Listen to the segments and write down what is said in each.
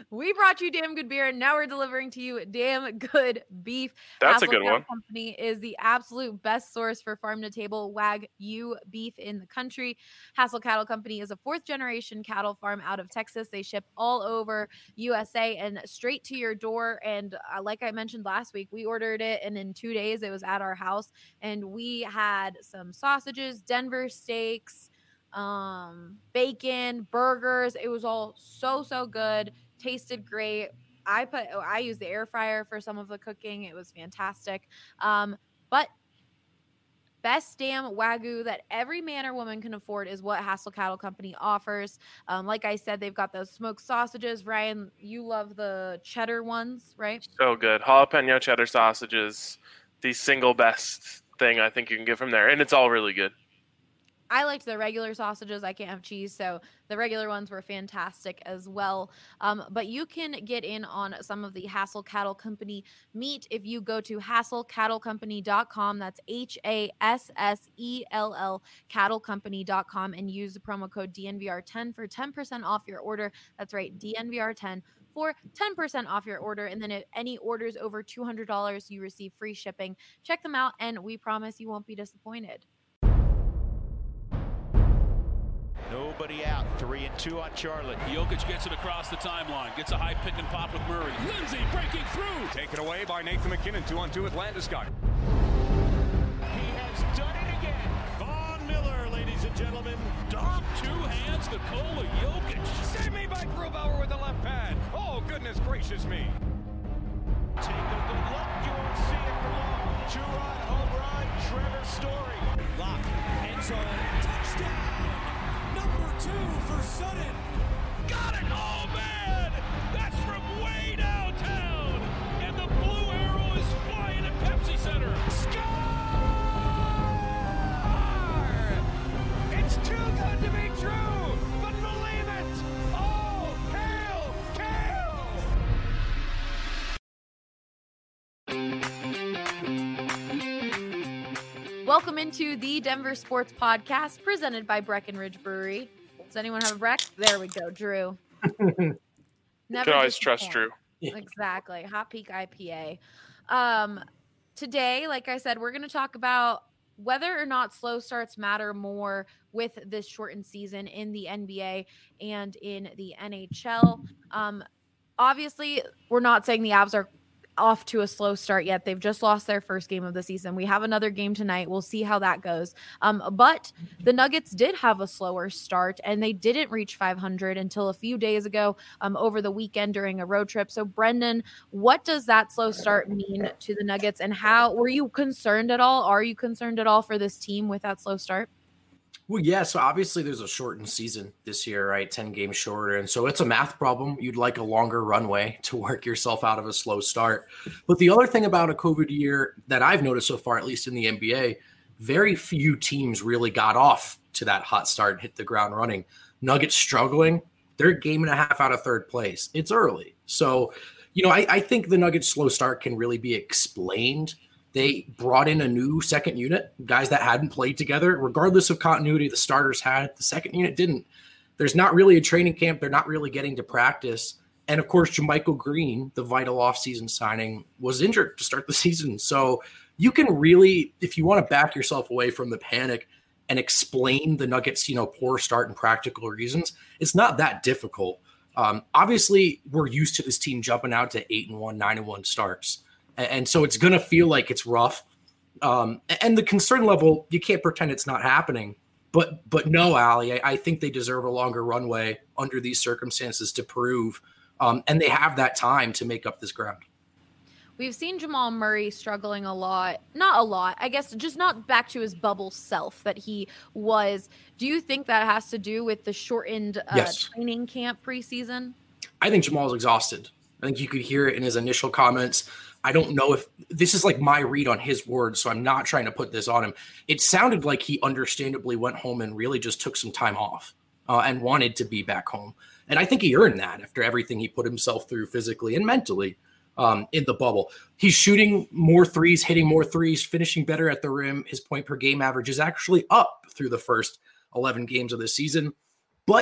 We brought you damn good beer, and now we're delivering to you damn good beef. That's Hassel a good Cattle one. Company is the absolute best source for farm-to-table Wagyu beef in the country. Hassel Cattle Company is a fourth-generation cattle farm out of Texas. They ship all over USA and straight to your door. And like I mentioned last week, we ordered it, and in 2 days, it was at our house. And we had some sausages, Denver steaks, bacon, burgers. It was all so good. Tasted great. I used the air fryer for some of the cooking. It was fantastic. But best damn Wagyu that every man or woman can afford is what Hassel Cattle Company offers. Like I said, they've got those smoked sausages. Ryan, you love the cheddar ones, right? So good. Jalapeno cheddar sausages, the single best thing I think you can get from there. And it's all really good. I liked the regular sausages. I can't have cheese, so the regular ones were fantastic as well. But you can get in on some of the Hassel Cattle Company meat if you go to HassellCattleCompany.com. That's HASSELL cattlecompany.com and use the promo code DNVR10 for 10% off your order. That's right, DNVR10 for 10% off your order. And then if any orders over $200, you receive free shipping. Check them out, and we promise you won't be disappointed. Nobody out. 3-2 on Charlotte. Jokic gets it across the timeline. Gets a high pick and pop with Murray. Lindsay breaking through. Taken away by Nathan McKinnon. 2-on-2 with Landeskog. He has done it again. Von Miller, ladies and gentlemen. Dom, two hands, Nikola Jokic. Save me by Grubauer with the left pad. Oh, goodness gracious me. Take a good look. You won't see it for long. Two-run home run. Trevor Story. Lock. End zone. Touchdown. Number 2 for Sutton. Got it! Oh, man! That's from way downtown! And the blue arrow is flying at Pepsi Center. Score! It's too good to be true, but believe it! Oh, hail, Kale! Welcome into the Denver Sports Podcast presented by Breckenridge Brewery. Does anyone have a Breck? There we go, Drew. You can always trust Drew. Exactly. Hot Peak IPA. Today, like I said, we're going to talk about whether or not slow starts matter more with this shortened season in the NBA and in the NHL. Obviously, we're not saying the Avs are off to a slow start yet. They've just lost their first game of the season. We have another game tonight. We'll see how that goes. But the Nuggets did have a slower start, and they didn't reach 500 until a few days ago over the weekend during a road trip. So, Brendan, what does that slow start mean to the Nuggets, and how were you concerned at all? Are you concerned at all for this team with that slow start? Well, yeah, so obviously there's a shortened season this year, right? 10 games shorter. And so it's a math problem. You'd like a longer runway to work yourself out of a slow start. But the other thing about a COVID year that I've noticed so far, at least in the NBA, very few teams really got off to that hot start and hit the ground running. Nuggets struggling. They're a game and a half out of third place. It's early. So, I think the Nuggets slow start can really be explained. They brought in a new second unit, guys that hadn't played together. Regardless of continuity, the starters had. The second unit didn't. There's not really a training camp. They're not really getting to practice. And, of course, JaMychal Green, the vital offseason signing, was injured to start the season. So you can really, if you want to back yourself away from the panic and explain the Nuggets, poor start and practical reasons, it's not that difficult. Obviously, we're used to this team jumping out to 8-1, 9-1 starts. And so it's going to feel like it's rough. And the concern level, you can't pretend it's not happening. But no, Allie, I think they deserve a longer runway under these circumstances to prove. And they have that time to make up this ground. We've seen Jamal Murray struggling a lot. Not a lot, I guess, just not back to his bubble self that he was. Do you think that has to do with the shortened training camp preseason? I think Jamal's exhausted. I think you could hear it in his initial comments. I don't know if this is like my read on his words, so I'm not trying to put this on him. It sounded like he understandably went home and really just took some time off and wanted to be back home. And I think he earned that after everything he put himself through physically and mentally in the bubble. He's shooting more threes, hitting more threes, finishing better at the rim. His point per game average is actually up through the first 11 games of the season. But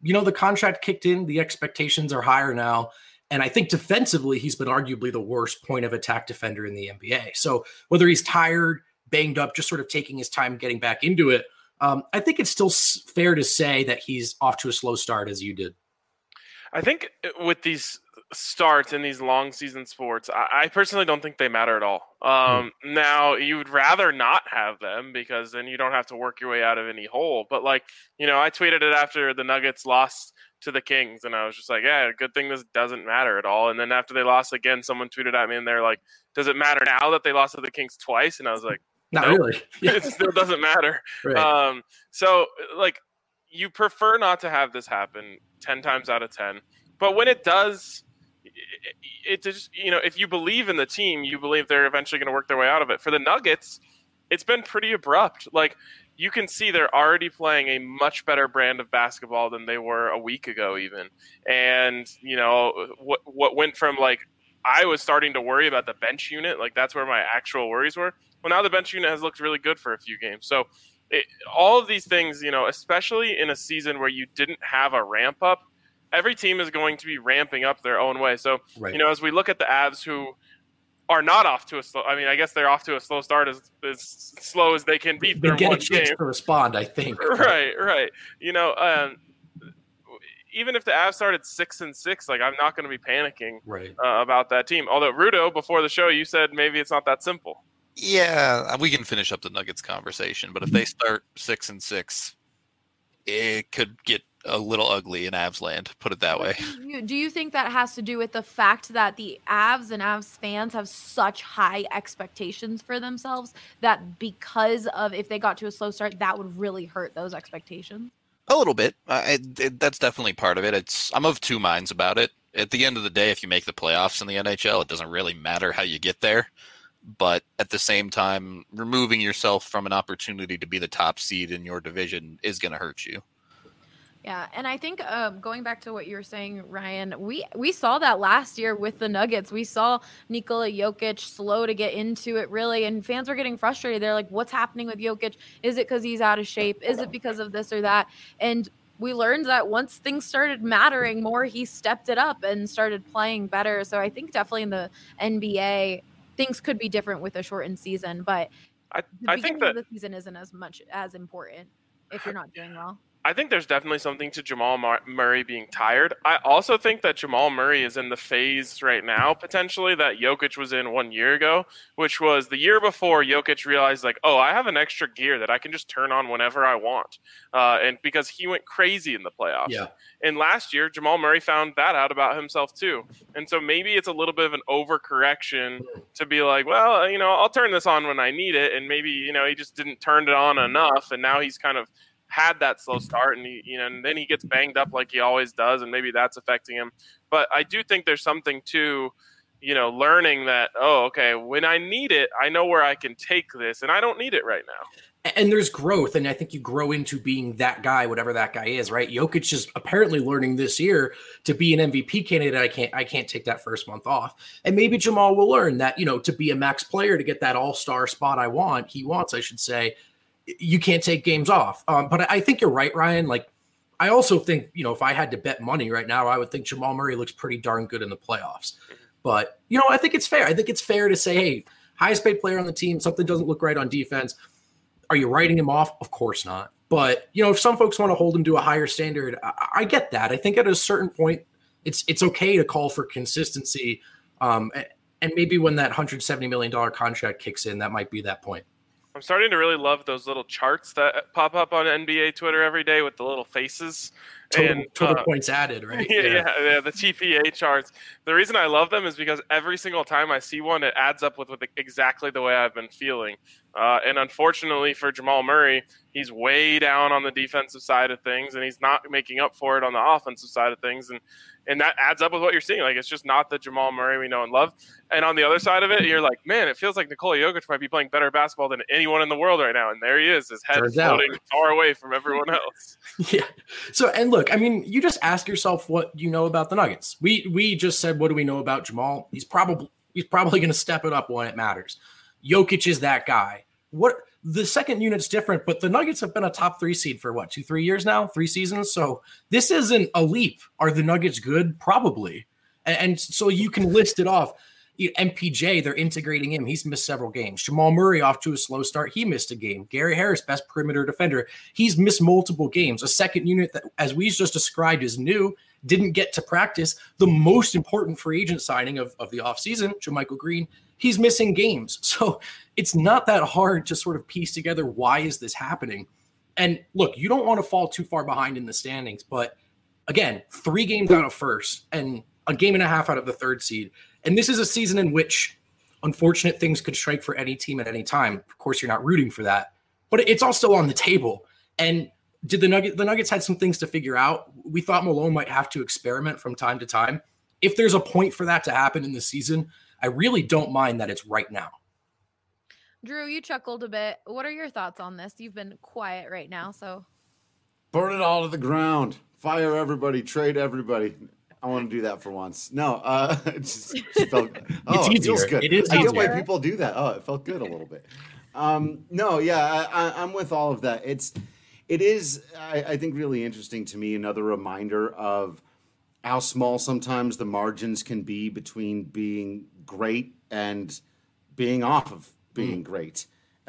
the contract kicked in, the expectations are higher now. And I think defensively, he's been arguably the worst point of attack defender in the NBA. So whether he's tired, banged up, just sort of taking his time getting back into it, I think it's still fair to say that he's off to a slow start, as you did. I think with these starts in these long season sports, I personally don't think they matter at all. Now, you would rather not have them because then you don't have to work your way out of any hole. But I tweeted it after the Nuggets lost to the Kings, and I was just like, yeah, good thing this doesn't matter at all. And then after they lost again, someone tweeted at me and they're like, does it matter now that they lost to the Kings twice? And I was like, not really. Yeah. It still doesn't matter. Right. So you prefer not to have this happen 10 times out of 10. But when it does, it just, if you believe in the team, you believe they're eventually going to work their way out of it. For the Nuggets, it's been pretty abrupt. You can see they're already playing a much better brand of basketball than they were a week ago even. And, what went from I was starting to worry about the bench unit, that's where my actual worries were. Well, now the bench unit has looked really good for a few games. So all of these things, especially in a season where you didn't have a ramp up, every team is going to be ramping up their own way. So, right. As we look at the Avs who are not off to a slow, I guess they're off to a slow start as slow as they can be. They get a chance to respond, I think. Right. Even if the Avs started 6-6, I'm not going to be panicking about that team. Although, Rudo, before the show, you said maybe it's not that simple. Yeah, we can finish up the Nuggets conversation, but if they start 6-6, it could get a little ugly in Avs land, put it that way. Do you think that has to do with the fact that the Avs and Avs fans have such high expectations for themselves that because of if they got to a slow start, that would really hurt those expectations? A little bit. That's definitely part of it. I'm of two minds about it. At the end of the day, if you make the playoffs in the NHL, it doesn't really matter how you get there. But at the same time, removing yourself from an opportunity to be the top seed in your division is going to hurt you. Yeah, and I think going back to what you were saying, Ryan, we saw that last year with the Nuggets. We saw Nikola Jokic slow to get into it, really, and fans were getting frustrated. They're like, what's happening with Jokic? Is it because he's out of shape? Is it because of this or that? And we learned that once things started mattering more, he stepped it up and started playing better. So I think definitely in the NBA, things could be different with a shortened season, but I think that the season isn't as important if you're not doing well. I think there's definitely something to Jamal Murray being tired. I also think that Jamal Murray is in the phase right now, potentially, that Jokic was in 1 year ago, which was the year before Jokic realized, I have an extra gear that I can just turn on whenever I want. And because he went crazy in the playoffs. Yeah. And last year, Jamal Murray found that out about himself too. And so maybe it's a little bit of an overcorrection to be like, well, I'll turn this on when I need it. And maybe, he just didn't turn it on enough. And now he's kind of had that slow start, and and then he gets banged up like he always does, and maybe that's affecting him. But I do think there's something to, learning that, okay, when I need it, I know where I can take this, and I don't need it right now. And there's growth, and I think you grow into being that guy, whatever that guy is, right? Jokic is apparently learning this year to be an MVP candidate. I can't take that first month off. And maybe Jamal will learn that, to be a max player, to get that all-star spot I should say, you can't take games off. But I think you're right, Ryan. I also think, if I had to bet money right now, I would think Jamal Murray looks pretty darn good in the playoffs. But, I think it's fair. I think it's fair to say, hey, highest paid player on the team, something doesn't look right on defense. Are you writing him off? Of course not. But, if some folks want to hold him to a higher standard, I get that. I think at a certain point, it's okay to call for consistency. And maybe when that $170 million contract kicks in, that might be that point. I'm starting to really love those little charts that pop up on NBA Twitter every day with the little faces. Total points added, right? Yeah, the TPA charts. The reason I love them is because every single time I see one, it adds up with exactly the way I've been feeling. And unfortunately for Jamal Murray, he's way down on the defensive side of things, and he's not making up for it on the offensive side of things. And that adds up with what you're seeing. It's just not the Jamal Murray we know and love. And on the other side of it, you're like, man, it feels like Nikola Jokic might be playing better basketball than anyone in the world right now. And there he is, his head floating far away from everyone else. Yeah. So, and look, you just ask yourself what you know about the Nuggets. We just said, what do we know about Jamal? He's probably going to step it up when it matters. Jokic is that guy. The second unit's different, but the Nuggets have been a top 3 seed for 2-3 years now, 3 seasons. So this isn't a leap. Are the Nuggets good? Probably. And so you can list it off. MPJ, they're integrating him. He's missed several games. Jamal Murray off to a slow start. He missed a game. Gary Harris, best perimeter defender. He's missed multiple games. A second unit that, as we just described, is new, didn't get to practice. The most important free agent signing of the offseason, JaMychal Green, he's missing games. So it's not that hard to sort of piece together why is this happening. And look, you don't want to fall too far behind in the standings, but again, 3 games out of first and a game and a half out of the 3rd seed. And this is a season in which unfortunate things could strike for any team at any time. Of course, you're not rooting for that, but it's all still on the table. And did the Nuggets had some things to figure out. We thought Malone might have to experiment from time to time. If there's a point for that to happen in the season, I really don't mind that it's right now. Drew, you chuckled a bit. What are your thoughts on this? You've been quiet right now, so. Burn it all to the ground. Fire everybody. Trade everybody. I want to do that for once. No, it just felt. Oh, it feels good. It is. I get why people do that. Oh, it felt good a little bit. No, yeah, I'm with all of that. It is. I think really interesting to me. Another reminder of how small sometimes the margins can be between being great and being off of being great.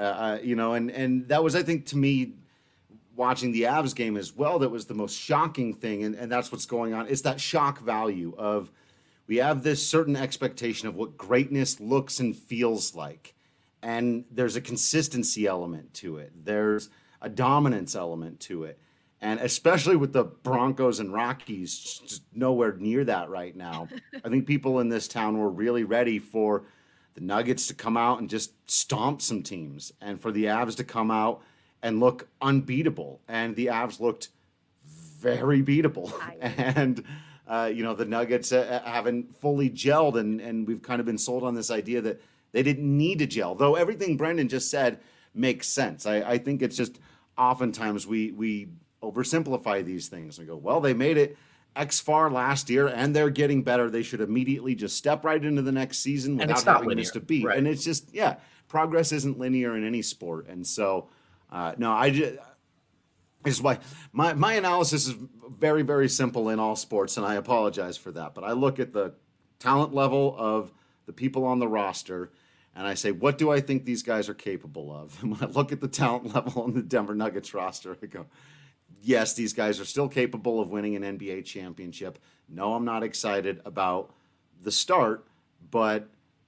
And that was, I think, to me, watching the Avs game as well, that was the most shocking thing, and that's what's going on. It's that shock value of we have this certain expectation of what greatness looks and feels like, and there's a consistency element to it. There's a dominance element to it, and especially with the Broncos and Rockies, just nowhere near that right now. I think people in this town were really ready for the Nuggets to come out and just stomp some teams, and for the Avs to come out and look unbeatable. And the Avs looked very beatable. And, the Nuggets haven't fully gelled, and we've kind of been sold on this idea that they didn't need to gel. Though everything Brendan just said makes sense. I think it's just oftentimes we oversimplify these things. We go, well, they made it X far last year, and they're getting better. They should immediately just step right into the next season without having missed a beat. Right. And it's just, progress isn't linear in any sport. And so, this is why my analysis is very, very simple in all sports, and I apologize for that. But I look at the talent level of the people on the roster, and I say, what do I think these guys are capable of? And when I look at the talent level on the Denver Nuggets roster, I go, yes, these guys are still capable of winning an NBA championship. No, I'm not excited about the start, but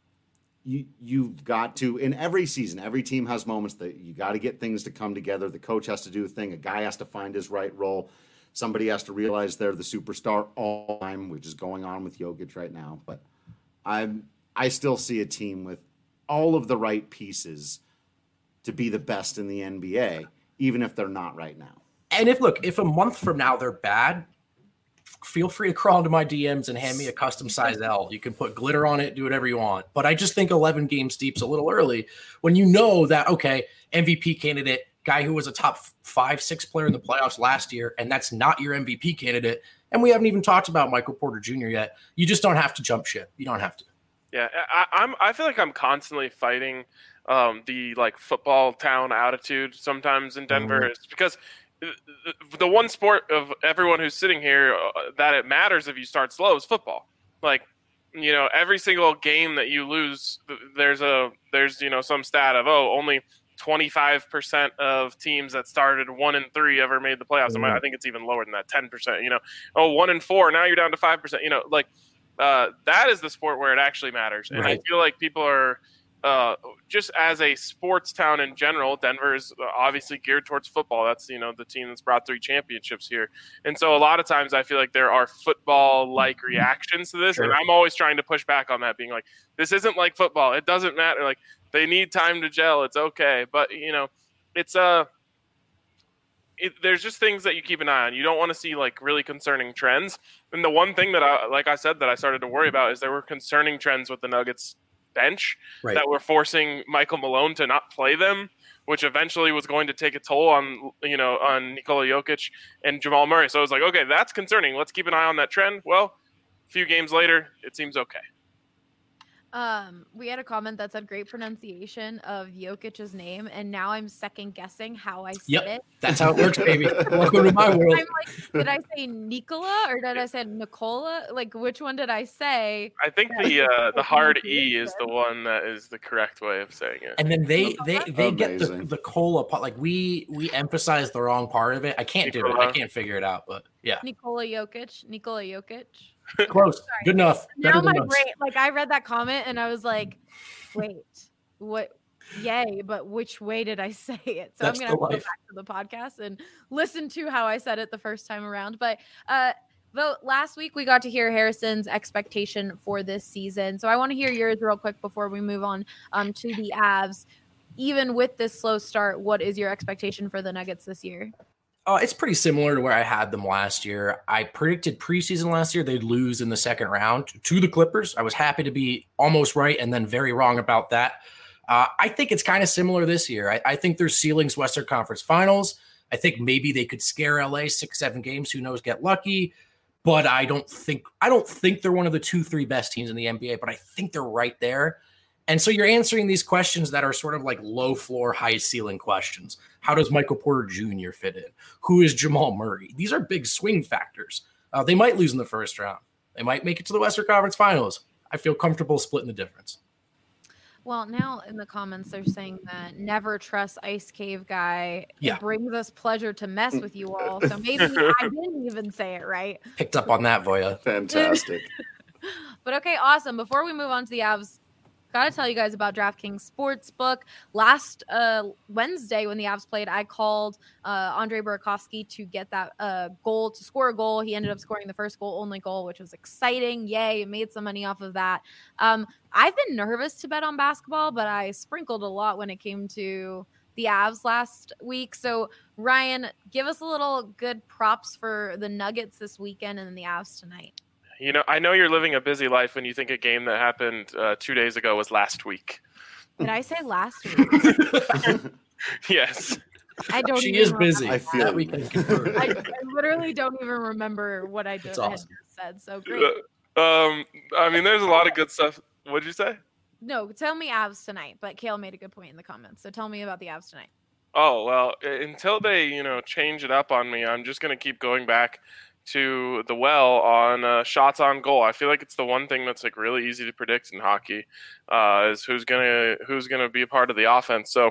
you've got to, in every season, every team has moments that you got to get things to come together. The coach has to do a thing. A guy has to find his right role. Somebody has to realize they're the superstar all the time, which is going on with Jokic right now. But I still see a team with all of the right pieces to be the best in the NBA, even if they're not right now. And if a month from now they're bad, feel free to crawl into my DMs and hand me a custom size L. You can put glitter on it, do whatever you want. But I just think 11 games deep's a little early when you know that, okay, MVP candidate, guy who was a top 5-6 player in the playoffs last year, and that's not your MVP candidate. And we haven't even talked about Michael Porter Jr. yet. You just don't have to jump ship. You don't have to. Yeah, I feel like I'm constantly fighting the football town attitude sometimes in Denver. Mm-hmm. It's because the one sport of everyone who's sitting here that it matters if you start slow is football. Every single game that you lose, there's some stat of only 25% of teams that started 1-3 ever made the playoffs. Mm-hmm. I think it's even lower than that, 10%. 1-4, now you're down to 5%. That is the sport where it actually matters, and right. I feel like people are. Just as a sports town in general, Denver is obviously geared towards football. That's, the team that's brought 3 championships here. And so a lot of times I feel like there are football-like reactions to this. Sure. And I'm always trying to push back on that, being like, this isn't like football. It doesn't matter. Like, they need time to gel. It's okay. But, it's there's just things that you keep an eye on. You don't want to see really concerning trends. And the one thing that I started to worry about is there were concerning trends with the Nuggets bench that were forcing Michael Malone to not play them, which eventually was going to take a toll on Nikola Jokic and Jamal Murray. So I was like, okay, that's concerning. Let's keep an eye on that trend. Well, a few games later, it seems okay. We had a comment that said great pronunciation of Jokic's name, and now I'm second guessing how I said it. That's how it works, baby. Welcome to my world. I'm like, did I say Nicola or did I say Nicola? Like, which one did I say? I think the hard E is the one that is the correct way of saying it. And then they get Amazing. the cola part. Like we emphasize the wrong part of it. I can't do it. I can't figure it out. But yeah, Nikola Jokic. close. Good enough. Now Better my than us. brain, like I read that comment and I was like, wait, what? Yay, but which way did I say it? So That's I'm gonna the have to go life. back to the podcast and listen to how I said it the first time around. But though last week we got to hear Harrison's expectation for this season. So I want to hear yours real quick before we move on to the Avs. Even with this slow start, what is your expectation for the Nuggets this year? It's pretty similar to where I had them last year. I predicted preseason last year they'd lose in the second round to the Clippers. I was happy to be almost right and then very wrong about that. I think it's kind of similar this year. I think their ceiling's Western Conference Finals. I think maybe they could scare LA 6-7 games. Who knows? Get lucky. But I don't think they're one of the 2-3 best teams in the NBA. But I think they're right there. And so you're answering these questions that are sort of like low floor, high ceiling questions. How does Michael Porter Jr. fit in? Who is Jamal Murray? These are big swing factors. They might lose in the first round. They might make it to the Western Conference Finals. I feel comfortable splitting the difference. Well, now in the comments, they're saying that never trust Ice Cave Guy. Yeah. It brings us pleasure to mess with you all. So maybe I didn't even say it right. Picked up on that, Voya. Fantastic. But okay, awesome. Before we move on to the Avs, got to tell you guys about DraftKings Sportsbook. Last Wednesday when the Avs played, I called Andre Burakovsky to get that goal, to score a goal. He ended up scoring the first only goal, which was exciting. Yay, made some money off of that. I've been nervous to bet on basketball, but I sprinkled a lot when it came to the Avs last week. So, Ryan, give us a little good props for the Nuggets this weekend and then the Avs tonight. You know, I know you're living a busy life when you think a game that happened 2 days ago was last week. Did I say last week? Yes. I don't. She even is busy. I feel That we can confirm. I literally don't even remember what I just, It's awesome. had just said. So great. I mean, there's a lot of good stuff. What did you say? No, tell me Avs tonight. But Kale made a good point in the comments. So tell me about the Avs tonight. Oh, well, until they, change it up on me, I'm just going to keep going back to the well on shots on goal. I feel like it's the one thing that's like really easy to predict in hockey, is who's gonna be a part of the offense. So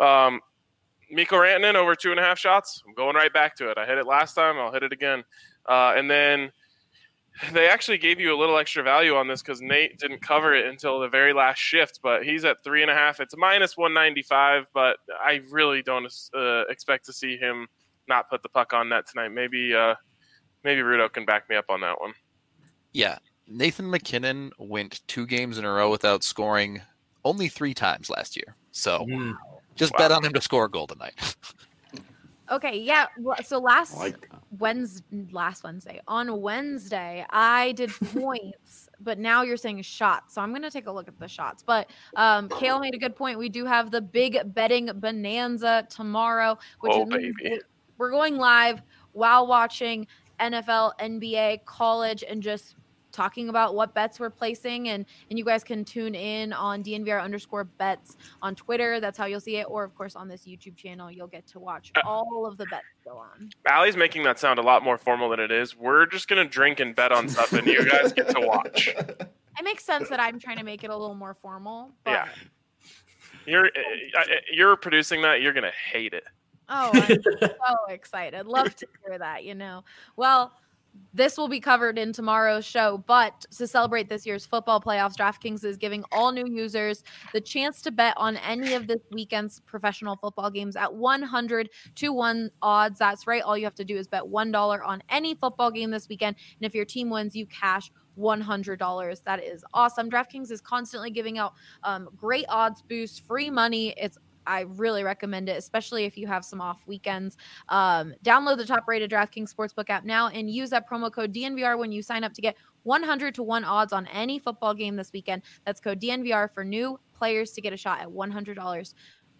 Mikko Rantanen over 2.5 shots. I'm going right back to it. I hit it last time. I'll hit it again. And then they actually gave you a little extra value on this because Nate didn't cover it until the very last shift, but he's at 3.5. It's minus 195, but I really don't expect to see him not put the puck on net tonight. Maybe Rudo can back me up on that one. Yeah. Nathan McKinnon went 2 games in a row without scoring only 3 times last year. So just bet on him to score a goal tonight. Okay, yeah. So last I like that. Wednesday, on Wednesday, I did points, but now you're saying shots. So I'm going to take a look at the shots. But Kale made a good point. We do have the big betting bonanza tomorrow, which baby. We're going live while watching NFL, NBA, college, and just talking about what bets we're placing. And you guys can tune in on DNVR_bets on Twitter. That's how you'll see it. Or, of course, on this YouTube channel, you'll get to watch all of the bets go on. Allie's making that sound a lot more formal than it is. We're just going to drink and bet on stuff, and you guys get to watch. It makes sense that I'm trying to make it a little more formal. But... Yeah. You're producing that. You're going to hate it. Oh, I'm so excited. Love to hear that, Well, this will be covered in tomorrow's show, but to celebrate this year's football playoffs, DraftKings is giving all new users the chance to bet on any of this weekend's professional football games at 100-1 odds. That's right. All you have to do is bet $1 on any football game this weekend, and if your team wins, you cash $100. That is awesome. DraftKings is constantly giving out great odds boosts, free money. I really recommend it, especially if you have some off weekends. Download the top-rated DraftKings Sportsbook app now and use that promo code DNVR when you sign up to get 100-1 odds on any football game this weekend. That's code DNVR for new players to get a shot at $100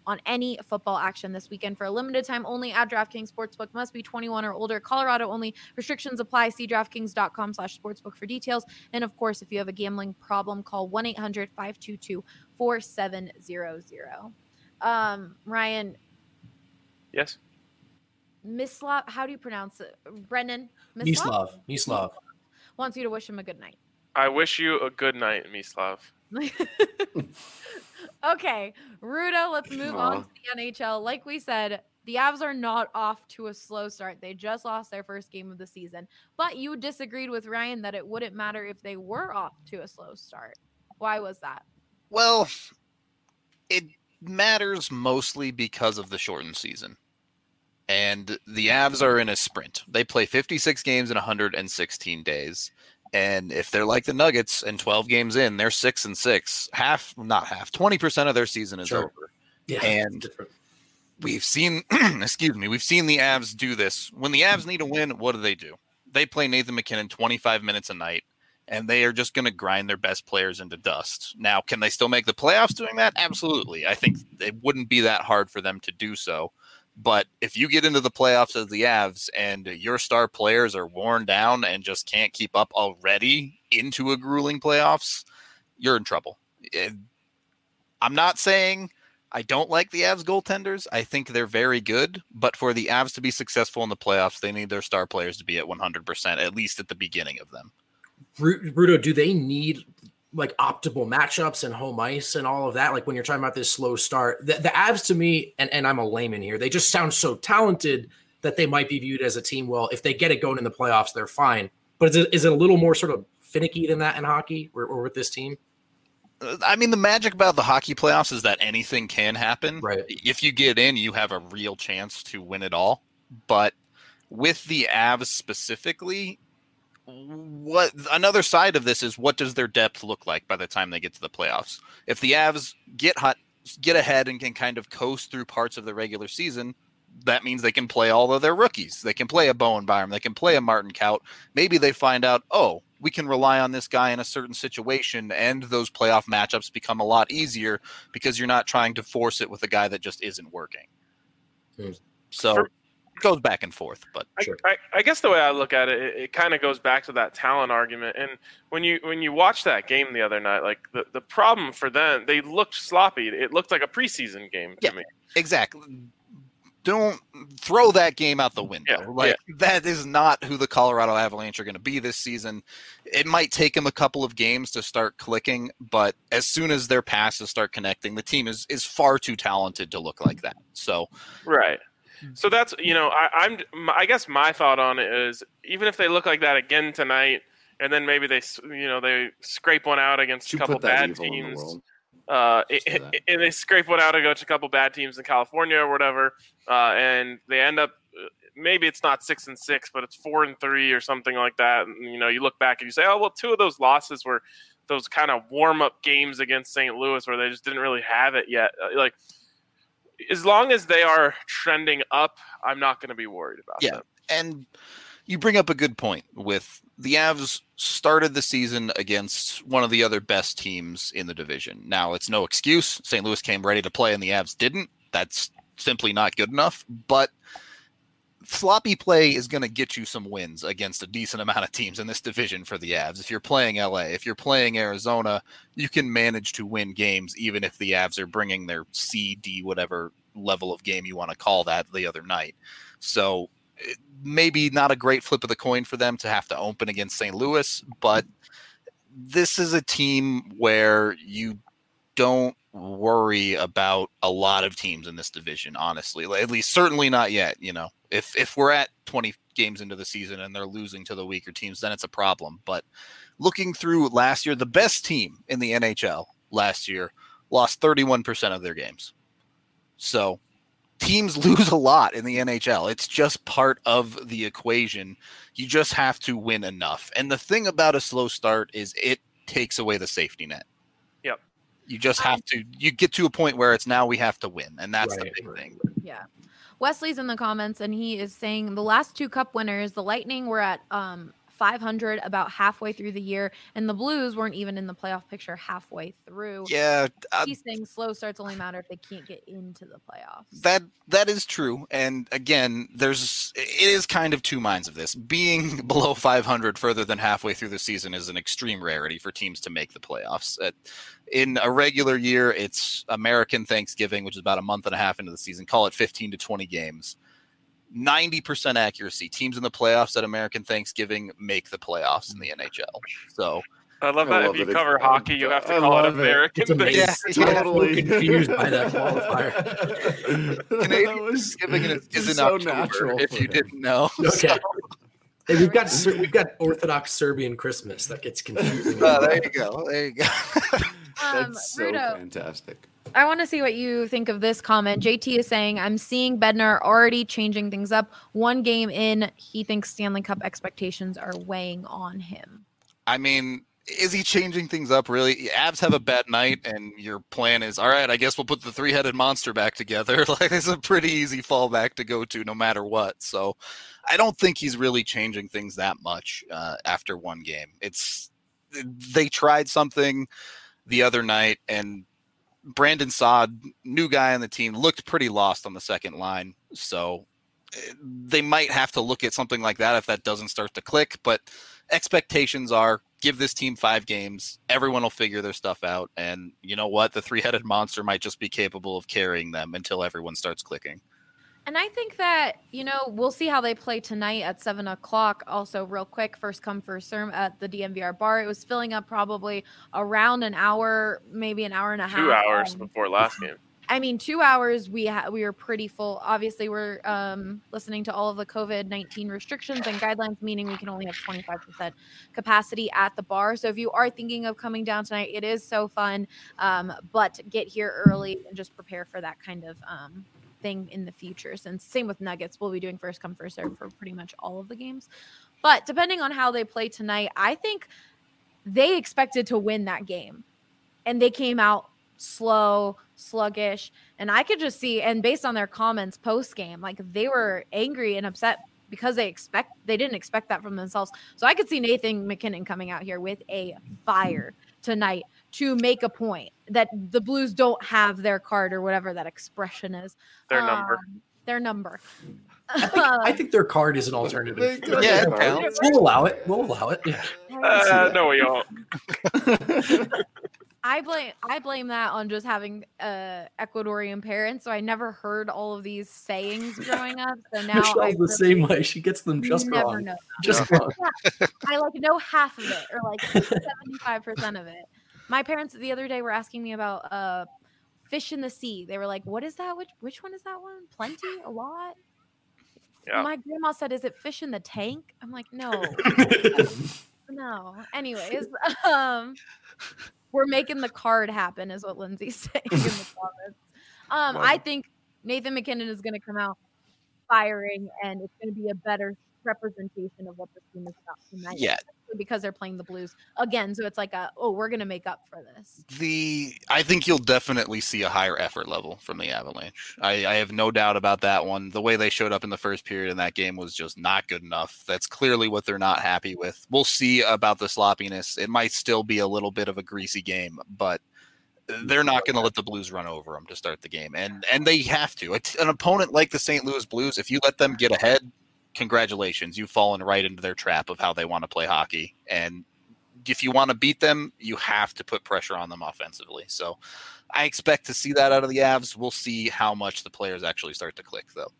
on any football action this weekend for a limited time only at DraftKings Sportsbook. Must be 21 or older. Colorado only. Restrictions apply. See DraftKings.com/sportsbook for details. And of course, if you have a gambling problem, call 1-800-522-4700. Ryan. Yes. Mislav, how do you pronounce it? Brennan? Mislav wants you to wish him a good night. I wish you a good night, Mislav. Okay, Rudo, let's move on to the NHL. Like we said, the Avs are not off to a slow start. They just lost their first game of the season. But you disagreed with Ryan that it wouldn't matter if they were off to a slow start. Why was that? Well, it matters mostly because of the shortened season. And the Avs are in a sprint. They play 56 games in 116 days. And if they're like the Nuggets and 12 games in, they're 6-6. 20% of their season is over. Yeah, and we've seen, we've seen the Avs do this. When the Avs need a win, what do? They play Nathan McKinnon 25 minutes a night, and they are just going to grind their best players into dust. Now, can they still make the playoffs doing that? Absolutely. I think it wouldn't be that hard for them to do so. But if you get into the playoffs as the Avs and your star players are worn down and just can't keep up already into a grueling playoffs, you're in trouble. I'm not saying I don't like the Avs goaltenders. I think they're very good. But for the Avs to be successful in the playoffs, they need their star players to be at 100%, at least at the beginning of them. Rudo, do they need like optimal matchups and home ice and all of that? Like when you're talking about this slow start, the Avs to me, and I'm a layman here, they just sound so talented that they might be viewed as a team. Well, if they get it going in the playoffs, they're fine. But is it a little more sort of finicky than that in hockey or with this team? I mean, the magic about the hockey playoffs is that anything can happen. Right. If you get in, you have a real chance to win it all. But with the Avs specifically, what another side of this is, what does their depth look like by the time they get to the playoffs? If the Avs get ahead and can kind of coast through parts of the regular season, that means they can play all of their rookies. They can play a Bowen Byram. They can play a Martin Kaut. Maybe they find out, we can rely on this guy in a certain situation, and those playoff matchups become a lot easier because you're not trying to force it with a guy that just isn't working. So it goes back and forth, but sure. I guess the way I look at it, it kind of goes back to that talent argument. And when you watch that game the other night, like the problem for them, they looked sloppy. It looked like a preseason game to me. Exactly. Don't throw that game out the window. That is not who the Colorado Avalanche are going to be this season. It might take them a couple of games to start clicking, but as soon as their passes start connecting, the team is far too talented to look like that. So, right. So that's, I guess my thought on it is, even if they look like that again tonight, and then maybe they scrape one out against a couple bad teams, and they scrape one out against a couple bad teams in California or whatever, and they end up, maybe it's not 6-6, but it's 4-3 or something like that. And, you look back and you say, oh, well, 2 of those losses were those kind of warm-up games against St. Louis where they just didn't really have it yet. As long as they are trending up, I'm not going to be worried about them. And you bring up a good point with the Avs started the season against one of the other best teams in the division. Now, it's no excuse. St. Louis came ready to play and the Avs didn't. That's simply not good enough. But sloppy play is going to get you some wins against a decent amount of teams in this division for the Avs. If you're playing LA, if you're playing Arizona, you can manage to win games even if the Avs are bringing their C, D, whatever level of game you want to call that the other night. So maybe not a great flip of the coin for them to have to open against St. Louis, but this is a team where you don't worry about a lot of teams in this division, honestly. At least certainly not yet. If we're at 20 games into the season and they're losing to the weaker teams, then it's a problem. But looking through last year, the best team in the NHL last year lost 31% of their games. So teams lose a lot in the NHL. It's just part of the equation. You just have to win enough. And the thing about a slow start is it takes away the safety net. Yep. You just have to, you get to a point where it's now we have to win. And that's the big thing. Yeah. Wesley's in the comments and he is saying the last 2 cup winners, the Lightning were at .500 about halfway through the year, and the Blues weren't even in the playoff picture halfway through. Yeah, He's saying slow starts only matter if they can't get into the playoffs. that is true. And again, it is kind of two minds of this. Being below 500 further than halfway through the season is an extreme rarity for teams to make the playoffs. In a regular year, it's American Thanksgiving, which is about a month and a half into the season. Call it 15 to 20 games. 90% accuracy. Teams in the playoffs at American Thanksgiving make the playoffs in the NHL. So I love that. If you cover hockey, you have to call it American. It's amazing. Yeah, totally confused by that qualifier. Canadian Thanksgiving is in so October, natural if for you him. didn't know. Okay. Hey, we've got Orthodox Serbian Christmas. That gets confusing. There you go. There you go. That's so Rudo, fantastic. I want to see what you think of this comment. JT is saying, I'm seeing Bednar already changing things up. One game in, he thinks Stanley Cup expectations are weighing on him. I mean, is he changing things up, really? Avs have a bad night, and your plan is, all right, I guess we'll put the three-headed monster back together. Like, it's a pretty easy fallback to go to no matter what. So I don't think he's really changing things that much after one game. They tried something the other night, and Brandon Saad, new guy on the team, looked pretty lost on the second line. So they might have to look at something like that if that doesn't start to click. But expectations are, give this team 5 games. Everyone will figure their stuff out. And you know what? The three-headed monster might just be capable of carrying them until everyone starts clicking. And I think that, we'll see how they play tonight at 7 o'clock. Also, real quick, first come, first serve at the DNVR bar. It was filling up probably around an hour, maybe an hour and a half. 2 hours before last game. I mean, 2 hours, we were pretty full. Obviously, we're listening to all of the COVID-19 restrictions and guidelines, meaning we can only have 25% capacity at the bar. So if you are thinking of coming down tonight, it is so fun. But get here early and just prepare for that kind of thing in the future. Since same with Nuggets, we'll be doing first come, first serve for pretty much all of the games. But depending on how they play tonight, I think they expected to win that game. And they came out slow, sluggish, and I could just see, and based on their comments post game, like they were angry and upset because they didn't expect that from themselves. So I could see Nathan MacKinnon coming out here with a fire tonight to make a point that the Blues don't have their card or whatever that expression is. Their number. Their number. I think their card is an alternative. Yeah, we'll allow it. Yeah. No, we won't. I blame that on just having Ecuadorian parents, so I never heard all of these sayings growing up. So now Michelle's the same way. She gets them just wrong. Know just wrong. Yeah, I know half of it, or 75% of it. My parents the other day were asking me about fish in the sea. They were like, "What is that? Which one is that one? Plenty? A lot?" Yeah. My grandma said, "Is it fish in the tank?" I'm like, "No." No. Anyways, we're making the card happen, is what Lindsay's saying in the comments. I think Nathan MacKinnon is going to come out firing, and it's going to be a better representation of what the team is about tonight. Yeah. Because they're playing the Blues again, so it's like we're going to make up for this. I think you'll definitely see a higher effort level from the Avalanche. I have no doubt about that one. The way they showed up in the first period in that game was just not good enough. That's clearly what they're not happy with. We'll see about the sloppiness. It might still be a little bit of a greasy game, but they're not going to let the Blues run over them to start the game, and they have to. An opponent like the St. Louis Blues, if you let them get ahead, congratulations, you've fallen right into their trap of how they want to play hockey. And if you want to beat them, you have to put pressure on them offensively. So I expect to see that out of the Avs. We'll see how much the players actually start to click, though.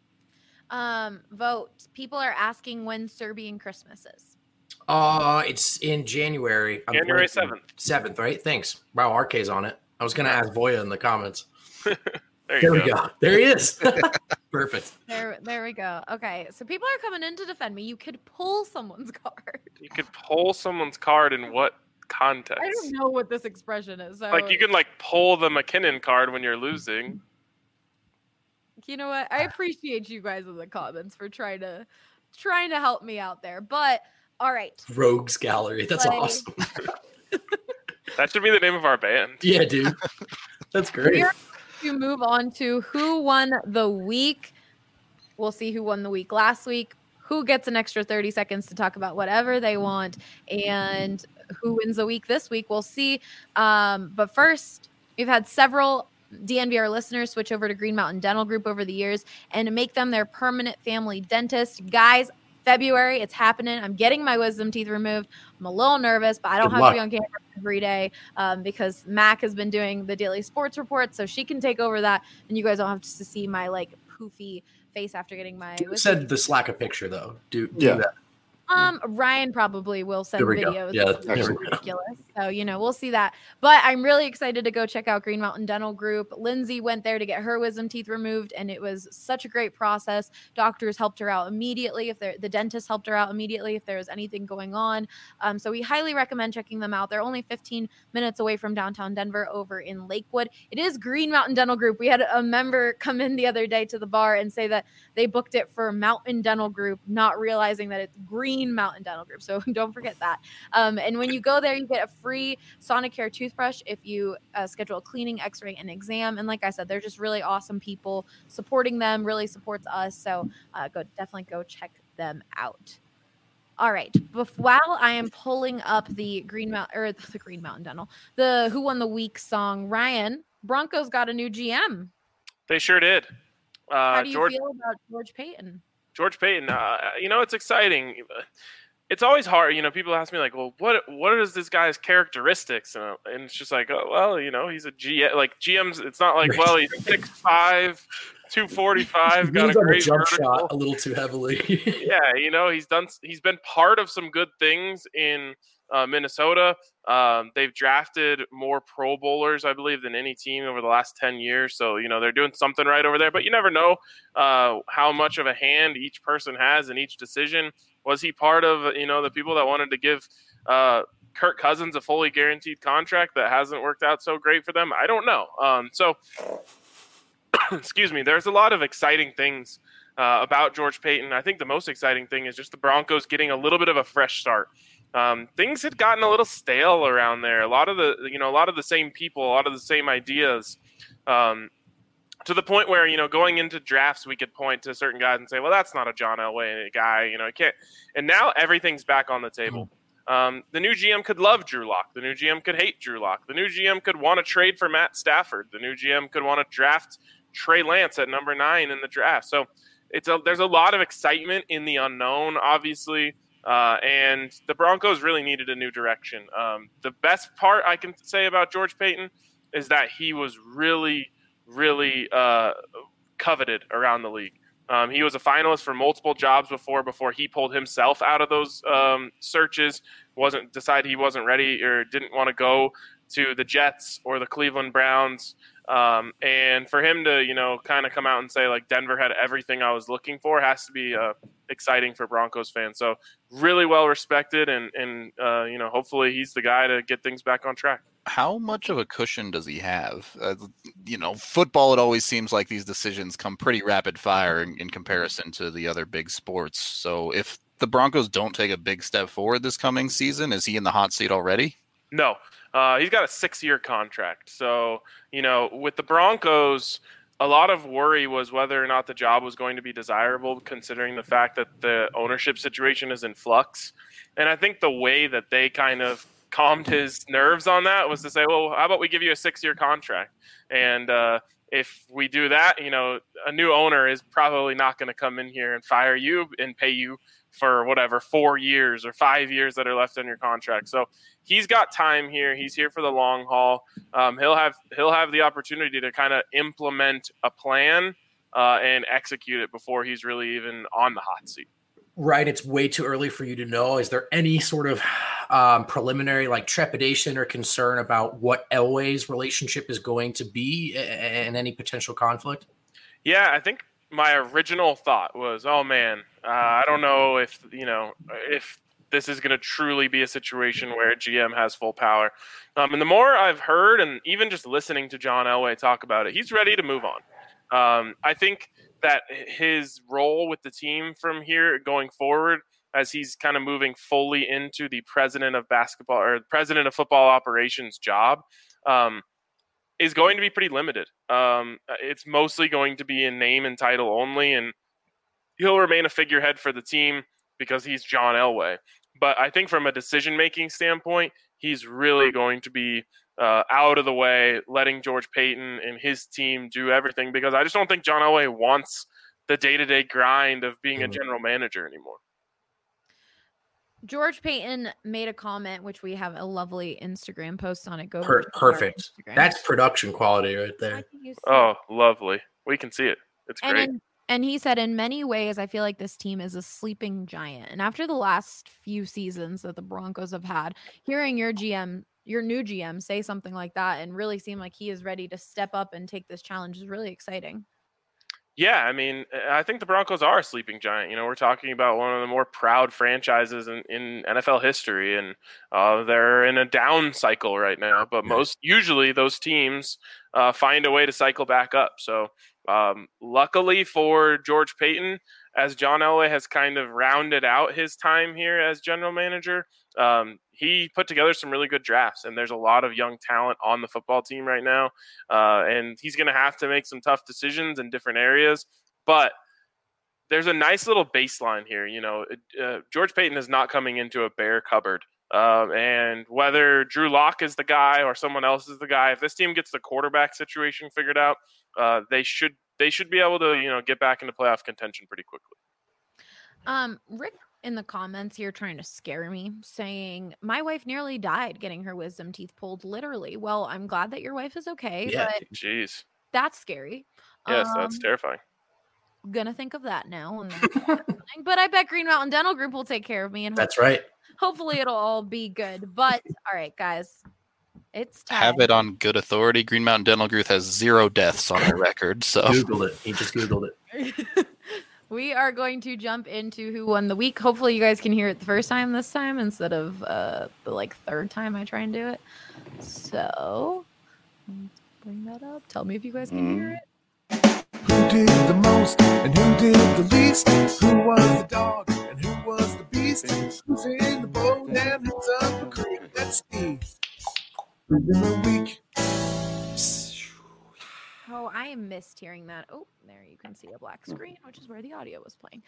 Vote. People are asking when Serbian Christmas is. It's in January. January 7th. 7th, right? Thanks. Wow, RK's on it. I was going to ask Voya in the comments. There we go. There he is. Perfect. There we go. Okay, so people are coming in to defend me. You could pull someone's card. You could pull someone's card in what context? I don't know what this expression is. So you can pull the MacKinnon card when you're losing. You know what? I appreciate you guys in the comments for trying to help me out there. But all right. Rogues Gallery. That's awesome. That should be the name of our band. Yeah, dude. That's great. We're to move on to who won the week. We'll see who won the week last week, who gets an extra 30 seconds to talk about whatever they want and who wins the week this week. We'll see. But first, we've had several DNVR listeners switch over to Green Mountain Dental Group over the years and to make them their permanent family dentist. Guys, February, it's happening. I'm getting my wisdom teeth removed. I'm a little nervous, but I don't have to be on camera every day because Mac has been doing the daily sports report, so she can take over that, and you guys don't have to see my like poofy face after getting my wisdom said the Slack a picture though. Do that. Ryan probably will send videos. Yeah, that's ridiculous. So, we'll see that. But I'm really excited to go check out Green Mountain Dental Group. Lindsay went there to get her wisdom teeth removed, and it was such a great process. Doctors helped her out immediately. The dentist helped her out immediately if there was anything going on. So we highly recommend checking them out. They're only 15 minutes away from downtown Denver over in Lakewood. It is Green Mountain Dental Group. We had a member come in the other day to the bar and say that they booked it for Mountain Dental Group, not realizing that it's Green Mountain Dental Group. So don't forget that. And when you go there, you get a free Sonicare toothbrush if you schedule a cleaning, x-ray, and exam. And like I said, they're just really awesome people. Supporting them really supports us. So definitely go check them out. All right. While I am pulling up the Green Mountain Dental, the Who Won the Week song, Ryan, Broncos got a new GM. They sure did. How do you feel about George Paton? George Paton, it's exciting. It's always hard. People ask me like, well, what is this guy's characteristics? And it's just like, oh, well, he's a GM. Like GMs, it's not like, well, he's 6'5", 245, got a great jump vertical shot a little too heavily. Yeah, he's been part of some good things in Minnesota. They've drafted more Pro Bowlers, I believe, than any team over the last 10 years. So, they're doing something right over there. But you never know how much of a hand each person has in each decision. Was he part of, the people that wanted to give Kirk Cousins a fully guaranteed contract that hasn't worked out so great for them? I don't know. Excuse me. There's a lot of exciting things about George Paton. I think the most exciting thing is just the Broncos getting a little bit of a fresh start. Things had gotten a little stale around there. A lot of the same people, a lot of the same ideas, to the point where, going into drafts, we could point to certain guys and say, well, that's not a John Elway guy, I can't. And now everything's back on the table. The new GM could love Drew Lock. The new GM could hate Drew Lock. The new GM could want to trade for Matt Stafford. The new GM could want to draft Trey Lance at number 9 in the draft. So there's a lot of excitement in the unknown, obviously. And the Broncos really needed a new direction. The best part I can say about George Paton is that he was really, really coveted around the league. He was a finalist for multiple jobs before he pulled himself out of those searches, decided he wasn't ready or didn't want to go to the Jets or the Cleveland Browns. And for him to, kind of come out and say like Denver had everything I was looking for has to be exciting for Broncos fans. So really well respected and hopefully he's the guy to get things back on track. How much of a cushion does he have? Football, it always seems like these decisions come pretty rapid fire in comparison to the other big sports. So if the Broncos don't take a big step forward this coming season, is he in the hot seat already? No. He's got a 6-year contract. So, with the Broncos, a lot of worry was whether or not the job was going to be desirable, considering the fact that the ownership situation is in flux. And I think the way that they kind of calmed his nerves on that was to say, well, how about we give you a 6-year contract? And if we do that, a new owner is probably not going to come in here and fire you and pay you for 4 years or 5 years that are left on your contract. So he's got time here. He's here for the long haul. He'll have the opportunity to kind of implement a plan and execute it before he's really even on the hot seat. Right. It's way too early for you to know. Is there any sort of preliminary trepidation or concern about what Elway's relationship is going to be and any potential conflict? Yeah, I think my original thought was, oh man, I don't know if this is going to truly be a situation where a GM has full power. And the more I've heard, and even just listening to John Elway talk about it, he's ready to move on. I think that his role with the team from here going forward, as he's kind of moving fully into the president of basketball or president of football operations job, is going to be pretty limited. It's mostly going to be in name and title only, and he'll remain a figurehead for the team because he's John Elway. But I think from a decision-making standpoint, he's really going to be out of the way, letting George Paton and his team do everything, because I just don't think John Elway wants the day-to-day grind of being a general manager anymore. George Paton made a comment, which we have a lovely Instagram post on it. Go perfect. That's production quality right there. Oh, lovely. We can see it. It's great. And he said, in many ways, I feel like this team is a sleeping giant. And after the last few seasons that the Broncos have had, hearing your new GM say something like that and really seem like he is ready to step up and take this challenge is really exciting. Yeah, I mean, I think the Broncos are a sleeping giant. You know, we're talking about one of the more proud franchises in NFL history, and they're in a down cycle right now. But usually those teams find a way to cycle back up. So luckily for George Paton, as John Elway has kind of rounded out his time here as general manager, he put together some really good drafts, and there's a lot of young talent on the football team right now. And he's going to have to make some tough decisions in different areas, but there's a nice little baseline here. You know, George Paton is not coming into a bare cupboard. And whether Drew Lock is the guy or someone else is the guy, if this team gets the quarterback situation figured out, they should be able to, you know, get back into playoff contention pretty quickly. Rick in the comments here trying to scare me, saying my wife nearly died getting her wisdom teeth pulled, literally. Well, I'm glad that your wife is okay. Yeah. But jeez, that's scary. Yes, that's terrifying. Gonna think of that now. But I bet Green Mountain Dental Group will take care of me, and that's right. Hopefully it'll all be good. But all right, guys, it's time. Have it on good authority. Green Mountain Dental Group has 0 deaths on their record. So Googled it. He just Googled it. We are going to jump into who won the week. Hopefully you guys can hear it the first time this time instead of the third time I try and do it. So let's bring that up. Tell me if you guys can hear it. Who did the most and who did the least? Who was the dog and who was the beast? Who's in the boat and who's up the creek? Let's see. Who's in the week? Oh, I missed hearing that. Oh, there you can see a black screen, which is where the audio was playing.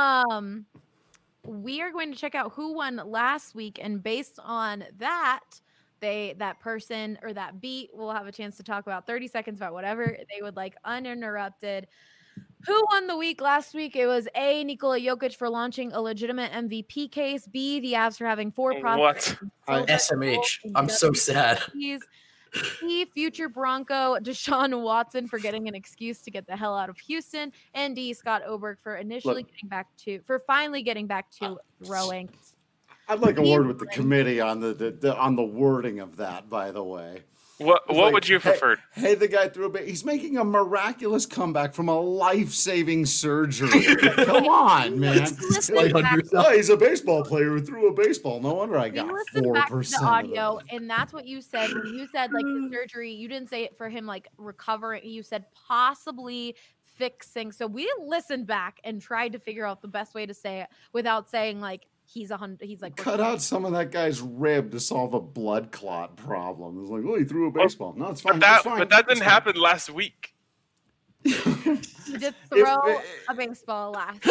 We are going to check out who won last week, and based on that, that person or that beat will have a chance to talk about 30 seconds about whatever they would like uninterrupted. Who won the week last week? It was A, Nikola Jokic for launching a legitimate MVP case. B, the Avs for having 4 prospects. What? SMH. I'm so sad. C, future Bronco Deshaun Watson for getting an excuse to get the hell out of Houston. And D, Scott Oberg for finally getting back to throwing. I'd like a word with the committee on the wording of that, by the way. What would you have preferred? Hey, the guy threw a bit. He's making a miraculous comeback from a life-saving surgery. Come on, man. He's a baseball player who threw a baseball. No wonder I got 4%. The audio, and that's what you said when you said like the surgery. You didn't say it for him like recovering. You said possibly fixing. So we listened back and tried to figure out the best way to say it without saying like. He's like cut out some of that guy's rib to solve a blood clot problem. It's like, he threw a baseball. No, it's fine. But that didn't happen last week. He did throw a baseball last.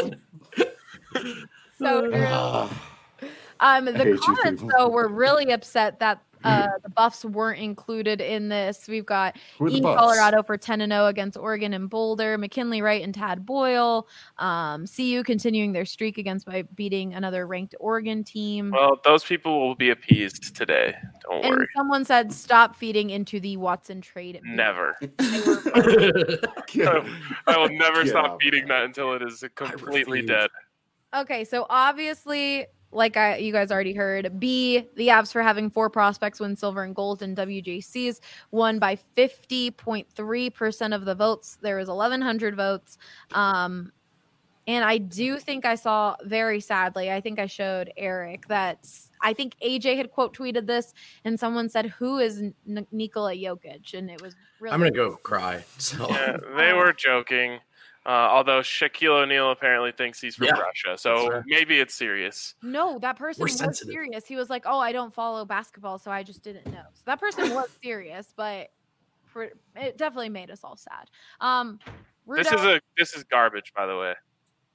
So the comments though were really upset that the Buffs weren't included in this. We've got Colorado for 10-0 against Oregon and Boulder, McKinley Wright and Tad Boyle. CU continuing their streak by beating another ranked Oregon team. Well, those people will be appeased today. Don't worry. Someone said stop feeding into the Watson trade. Never. I will never stop feeding that until it is completely dead. Okay, so obviously, like you guys already heard, B, the Avs for having 4 prospects win silver and gold in WJCs, won by 50.3% of the votes. There was 1,100 votes. And I do think I saw, very sadly, I think I showed Eric that I think AJ had quote tweeted this, and someone said, who is Nikola Jokic? And it was really... I'm going to go cry. So. Yeah, they were joking. Although Shaquille O'Neal apparently thinks he's from Russia, so maybe it's serious. No, that person was serious. He was like, "Oh, I don't follow basketball, so I just didn't know." So that person was serious, but it definitely made us all sad. This is garbage, by the way.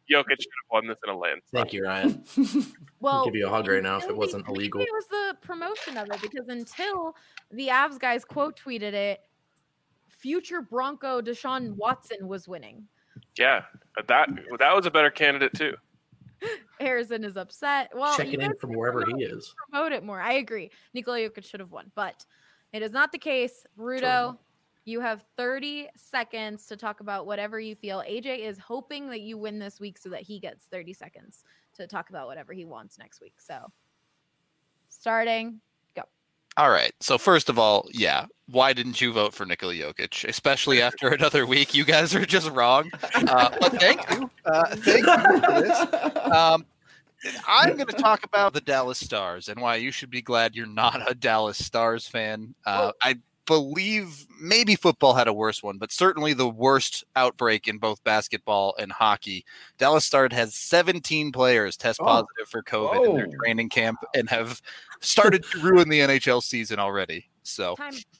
Jokic should have won this in a landslide. Thank you, Ryan. Well, I'll give you a hug right now if it until wasn't illegal. It was the promotion of it, because until the Avs guys quote tweeted it, future Bronco Deshaun Watson was winning. Yeah, that was a better candidate too. Harrison is upset. Well, Checking in from wherever he is. Promote it more. I agree. Nikola Jokic should have won, but it is not the case. Rudo, you have 30 seconds to talk about whatever you feel. AJ is hoping that you win this week so that he gets 30 seconds to talk about whatever he wants next week. So, starting, go. All right. So first of all, yeah, why didn't you vote for Nikola Jokic, especially after another week? You guys are just wrong. But thank you. Thank you for this. I'm going to talk about the Dallas Stars and why you should be glad you're not a Dallas Stars fan. I believe maybe football had a worse one, but certainly the worst outbreak in both basketball and hockey. Dallas Stars has 17 players test positive for COVID in their training camp and have started to ruin the NHL season already. So,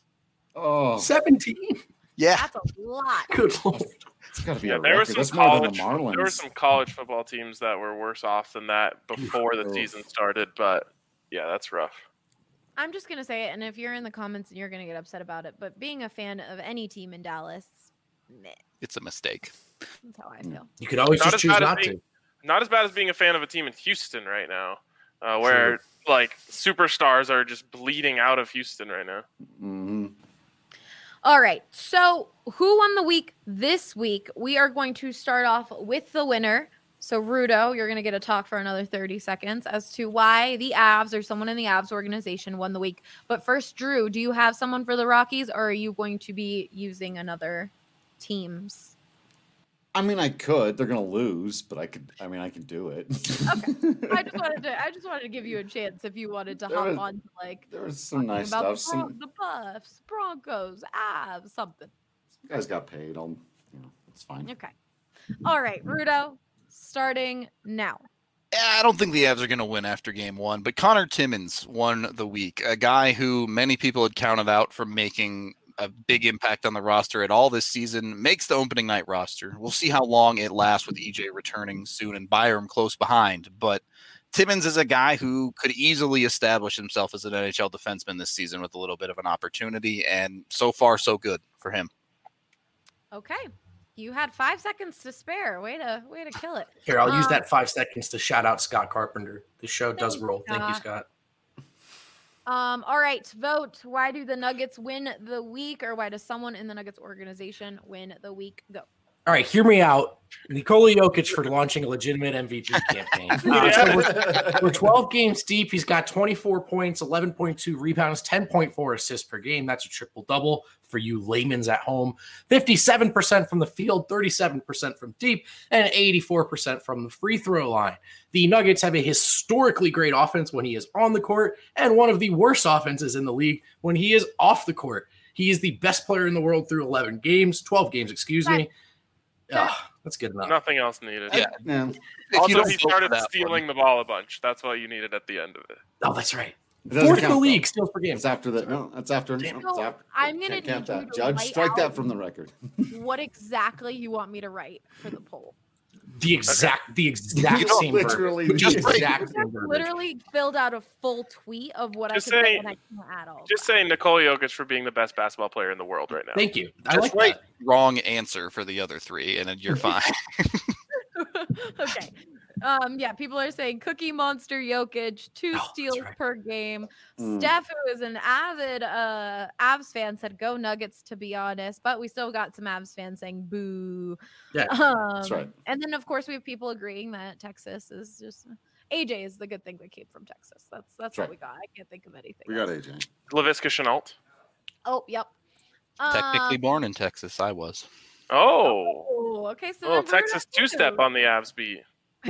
17? Yeah. That's a lot. Good Lord. It's got to be Yeah, a there were record. some That's more than college. the Marlins. There were some college football teams that were worse off than that before the season started. But yeah, that's rough. I'm just going to say it, and if you're in the comments and you're going to get upset about it, but being a fan of any team in Dallas, meh, It's a mistake. that's how I feel. You could always Not just as choose bad as not being- to. Not as bad as being a fan of a team in Houston right now, where like superstars are just bleeding out of Houston right now. Mm-hmm. All right. So, who won the week this week? We are going to start off with the winner. So, Rudo, you're going to get a talk for another 30 seconds as to why the Avs or someone in the Avs organization won the week. But first, Drew, do you have someone for the Rockies, or are you going to be using another team's? I mean, I could. They're going to lose, but I could do it. Okay. I just wanted to give you a chance if you wanted to hop on to like There was some nice about stuff. the Buffs, Broncos, Avs, something. Some guys got paid. It's fine. Okay. All right, Rudo, starting now. I don't think the Avs are going to win after game one, but Connor Timmins won the week, a guy who many people had counted out from making a big impact on the roster at all this season, makes the opening night roster. We'll see how long it lasts with EJ returning soon and Byram close behind, but Timmins is a guy who could easily establish himself as an NHL defenseman this season with a little bit of an opportunity, and so far so good for him. Okay. You had 5 seconds to spare. Way to kill it. Here, I'll use that 5 seconds to shout out Scott Carpenter. The show does Thanks, roll. Thank you, Scott. Scott. All right, vote. Why do the Nuggets win the week, or why does someone in the Nuggets organization win the week? Go. All right, hear me out. Nikola Jokic for launching a legitimate MVP campaign. So we're 12 games deep. He's got 24 points, 11.2 rebounds, 10.4 assists per game. That's a triple-double for you layman's at home. 57% from the field, 37% from deep, and 84% from the free throw line. The Nuggets have a historically great offense when he is on the court, and one of the worst offenses in the league when he is off the court. He is the best player in the world through 12 games, excuse me. That's good enough. Nothing else needed. Yeah. Also, he started stealing the ball a bunch. That's what you needed at the end of it. Oh, that's right. It doesn't Fourth in the count, league, though. steals per game. It's after that. No, that's after. Damn. No, it's after. I'm gonna Can't count need you that. to Judge, write strike out that from the record. what exactly you want me to write for the poll. The exact same literally verbiage. just The exact I same verbiage. literally filled out a full tweet of what Just I could say, say- and I can't add all. Just saying Nikola Jokic for being the best basketball player in the world right now. Thank you. I Just like write that. wrong answer for the other three, and then you're fine. Okay. Yeah, people are saying Cookie Monster Jokic, 2 Oh, that's steals right. per game. Mm. Steph, who is an avid Avs fan, said go Nuggets, to be honest, but we still got some Avs fans saying boo. Yeah, that's right. And then, of course, we have people agreeing that Texas is just AJ is the good thing that came from Texas. That's what right. we got. I can't think of anything. We got else. AJ. Laviska Shenault. Oh, yep. Technically born in Texas, I was. Oh. Okay. So Oh, then Texas Bruno two-step too. on the Avs beat.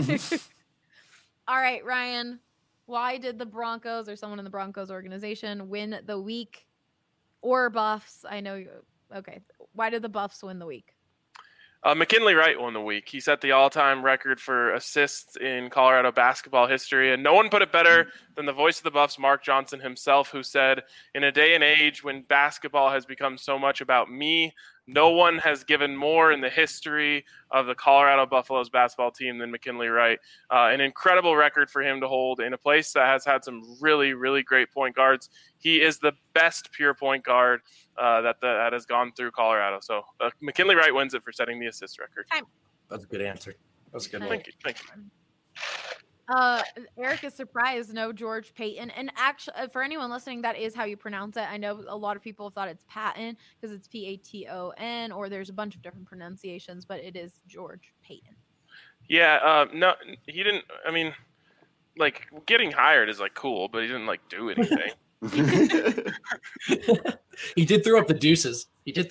All right, Ryan. Why did the Broncos or someone in the Broncos organization win the week, or Buffs? I know. Okay. Why did the Buffs win the week? McKinley Wright won the week. He set the all-time record for assists in Colorado basketball history, and no one put it better than the voice of the Buffs, Mark Johnson himself, who said, in a day and age when basketball has become so much about me, no one has given more in the history of the Colorado Buffaloes basketball team than McKinley Wright. An incredible record for him to hold in a place that has had some really, really great point guards. He is the best pure point guard that has gone through Colorado. So McKinley Wright wins it for setting the assist record. That's a good answer. That's a good one. Thank you. Eric is surprised. No George Payton. And actually, for anyone listening, that is how you pronounce it. I know a lot of people thought it's Patton because it's Paton, or there's a bunch of different pronunciations, but it is George Payton. Yeah. No, he didn't. I mean, like, getting hired is like cool, but he didn't like do anything. He did throw up the deuces. It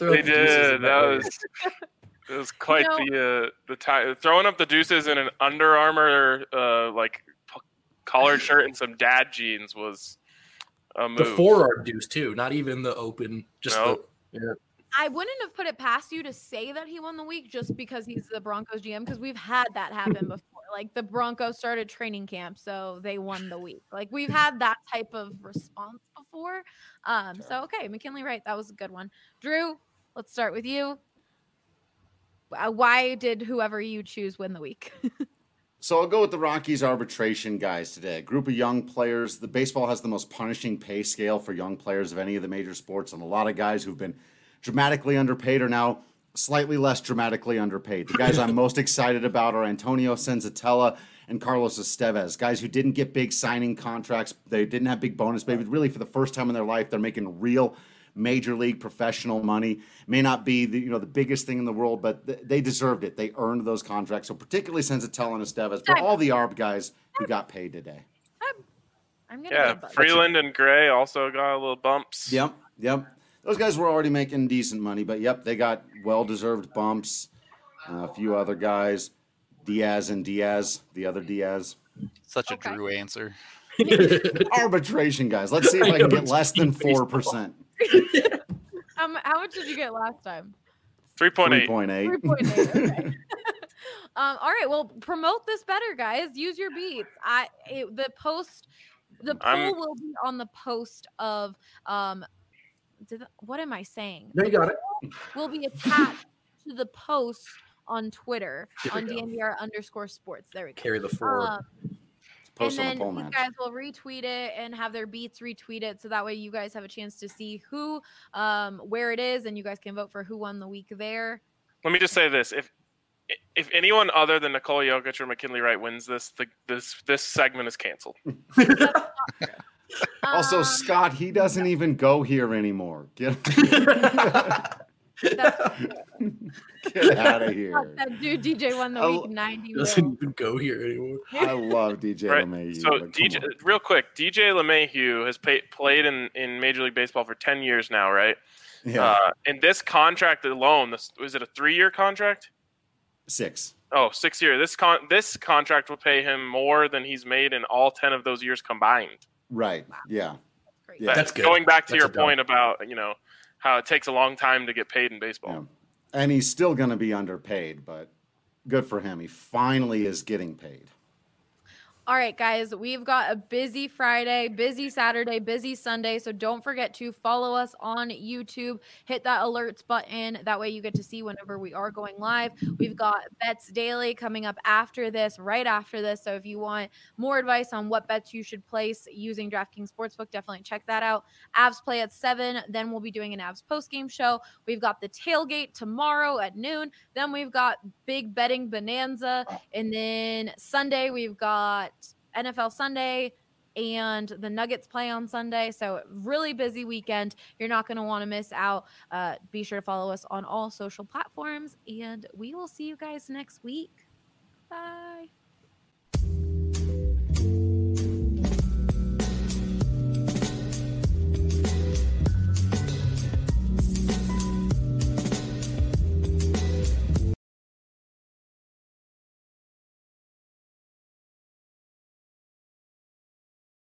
was quite the time. Throwing up the deuces in an Under Armour collared shirt and some dad jeans was a move. The forearm deuce too, not even the open. Just I wouldn't have put it past you to say that he won the week just because he's the Broncos GM, because we've had that happen before. Like, the Broncos started training camp, so they won the week. Like, we've had that type of response before. So okay, McKinley Wright, that was a good one. Drew, let's start with you. Why did whoever you choose win the week? So I'll go with the Rockies arbitration guys today. A group of young players. The baseball has the most punishing pay scale for young players of any of the major sports, and a lot of guys who've been dramatically underpaid are now slightly less dramatically underpaid. The guys I'm most excited about are Antonio Senzatella and Carlos Estevez, guys who didn't get big signing contracts. They didn't have big bonus payments. Really, for the first time in their life, they're making real major league professional money. May not be the biggest thing in the world, but they deserved it. They earned those contracts. So particularly Senzatella and Estevez, but all the ARB guys who got paid today. Freeland and Gray also got a little bumps. Yep. Those guys were already making decent money, but they got well-deserved bumps. A few other guys, Diaz, the other Diaz. Such a Drew answer. Arbitration guys. Let's see if I can get less than 4%. How much did you get last time? 3.8. 3.8. Okay. All right. Well, promote this better, guys. Use your beats. The poll will be on the post of what am I saying? No, you got it. Will be attached to the post on Twitter on DNVR_sports. There we go. Carry the forward. And then you guys will retweet it and have their beats retweet it, so that way you guys have a chance to see who, where it is, and you guys can vote for who won the week there. Let me just say this: if anyone other than Nikola Jokic or McKinley Wright wins this segment is canceled. Also, Scott, he doesn't even go here anymore. Get out of here. That dude DJ won the week 90. Doesn't even go here anymore. I love DJ LeMahieu. So real quick, DJ LeMahieu has played in Major League Baseball for 10 years now, right? Yeah. And this contract alone, was it a 3-year contract? 6. Oh, 6 year. This contract will pay him more than he's made in all 10 of those years combined. Right. Yeah. Yeah, that's good. Going back to your point about how it takes a long time to get paid in baseball. Yeah. And he's still going to be underpaid, but good for him. He finally is getting paid. All right, guys, we've got a busy Friday, busy Saturday, busy Sunday. So don't forget to follow us on YouTube. Hit that alerts button. That way you get to see whenever we are going live. We've got Bets Daily coming up after this, right after this. So if you want more advice on what bets you should place using DraftKings Sportsbook, definitely check that out. Avs play at 7. Then we'll be doing an Avs postgame show. We've got the tailgate tomorrow at noon. Then we've got big betting bonanza. And then Sunday, we've got NFL Sunday, and the Nuggets play on Sunday. So really busy weekend. You're not going to want to miss out. Be sure to follow us on all social platforms, and we will see you guys next week. Bye.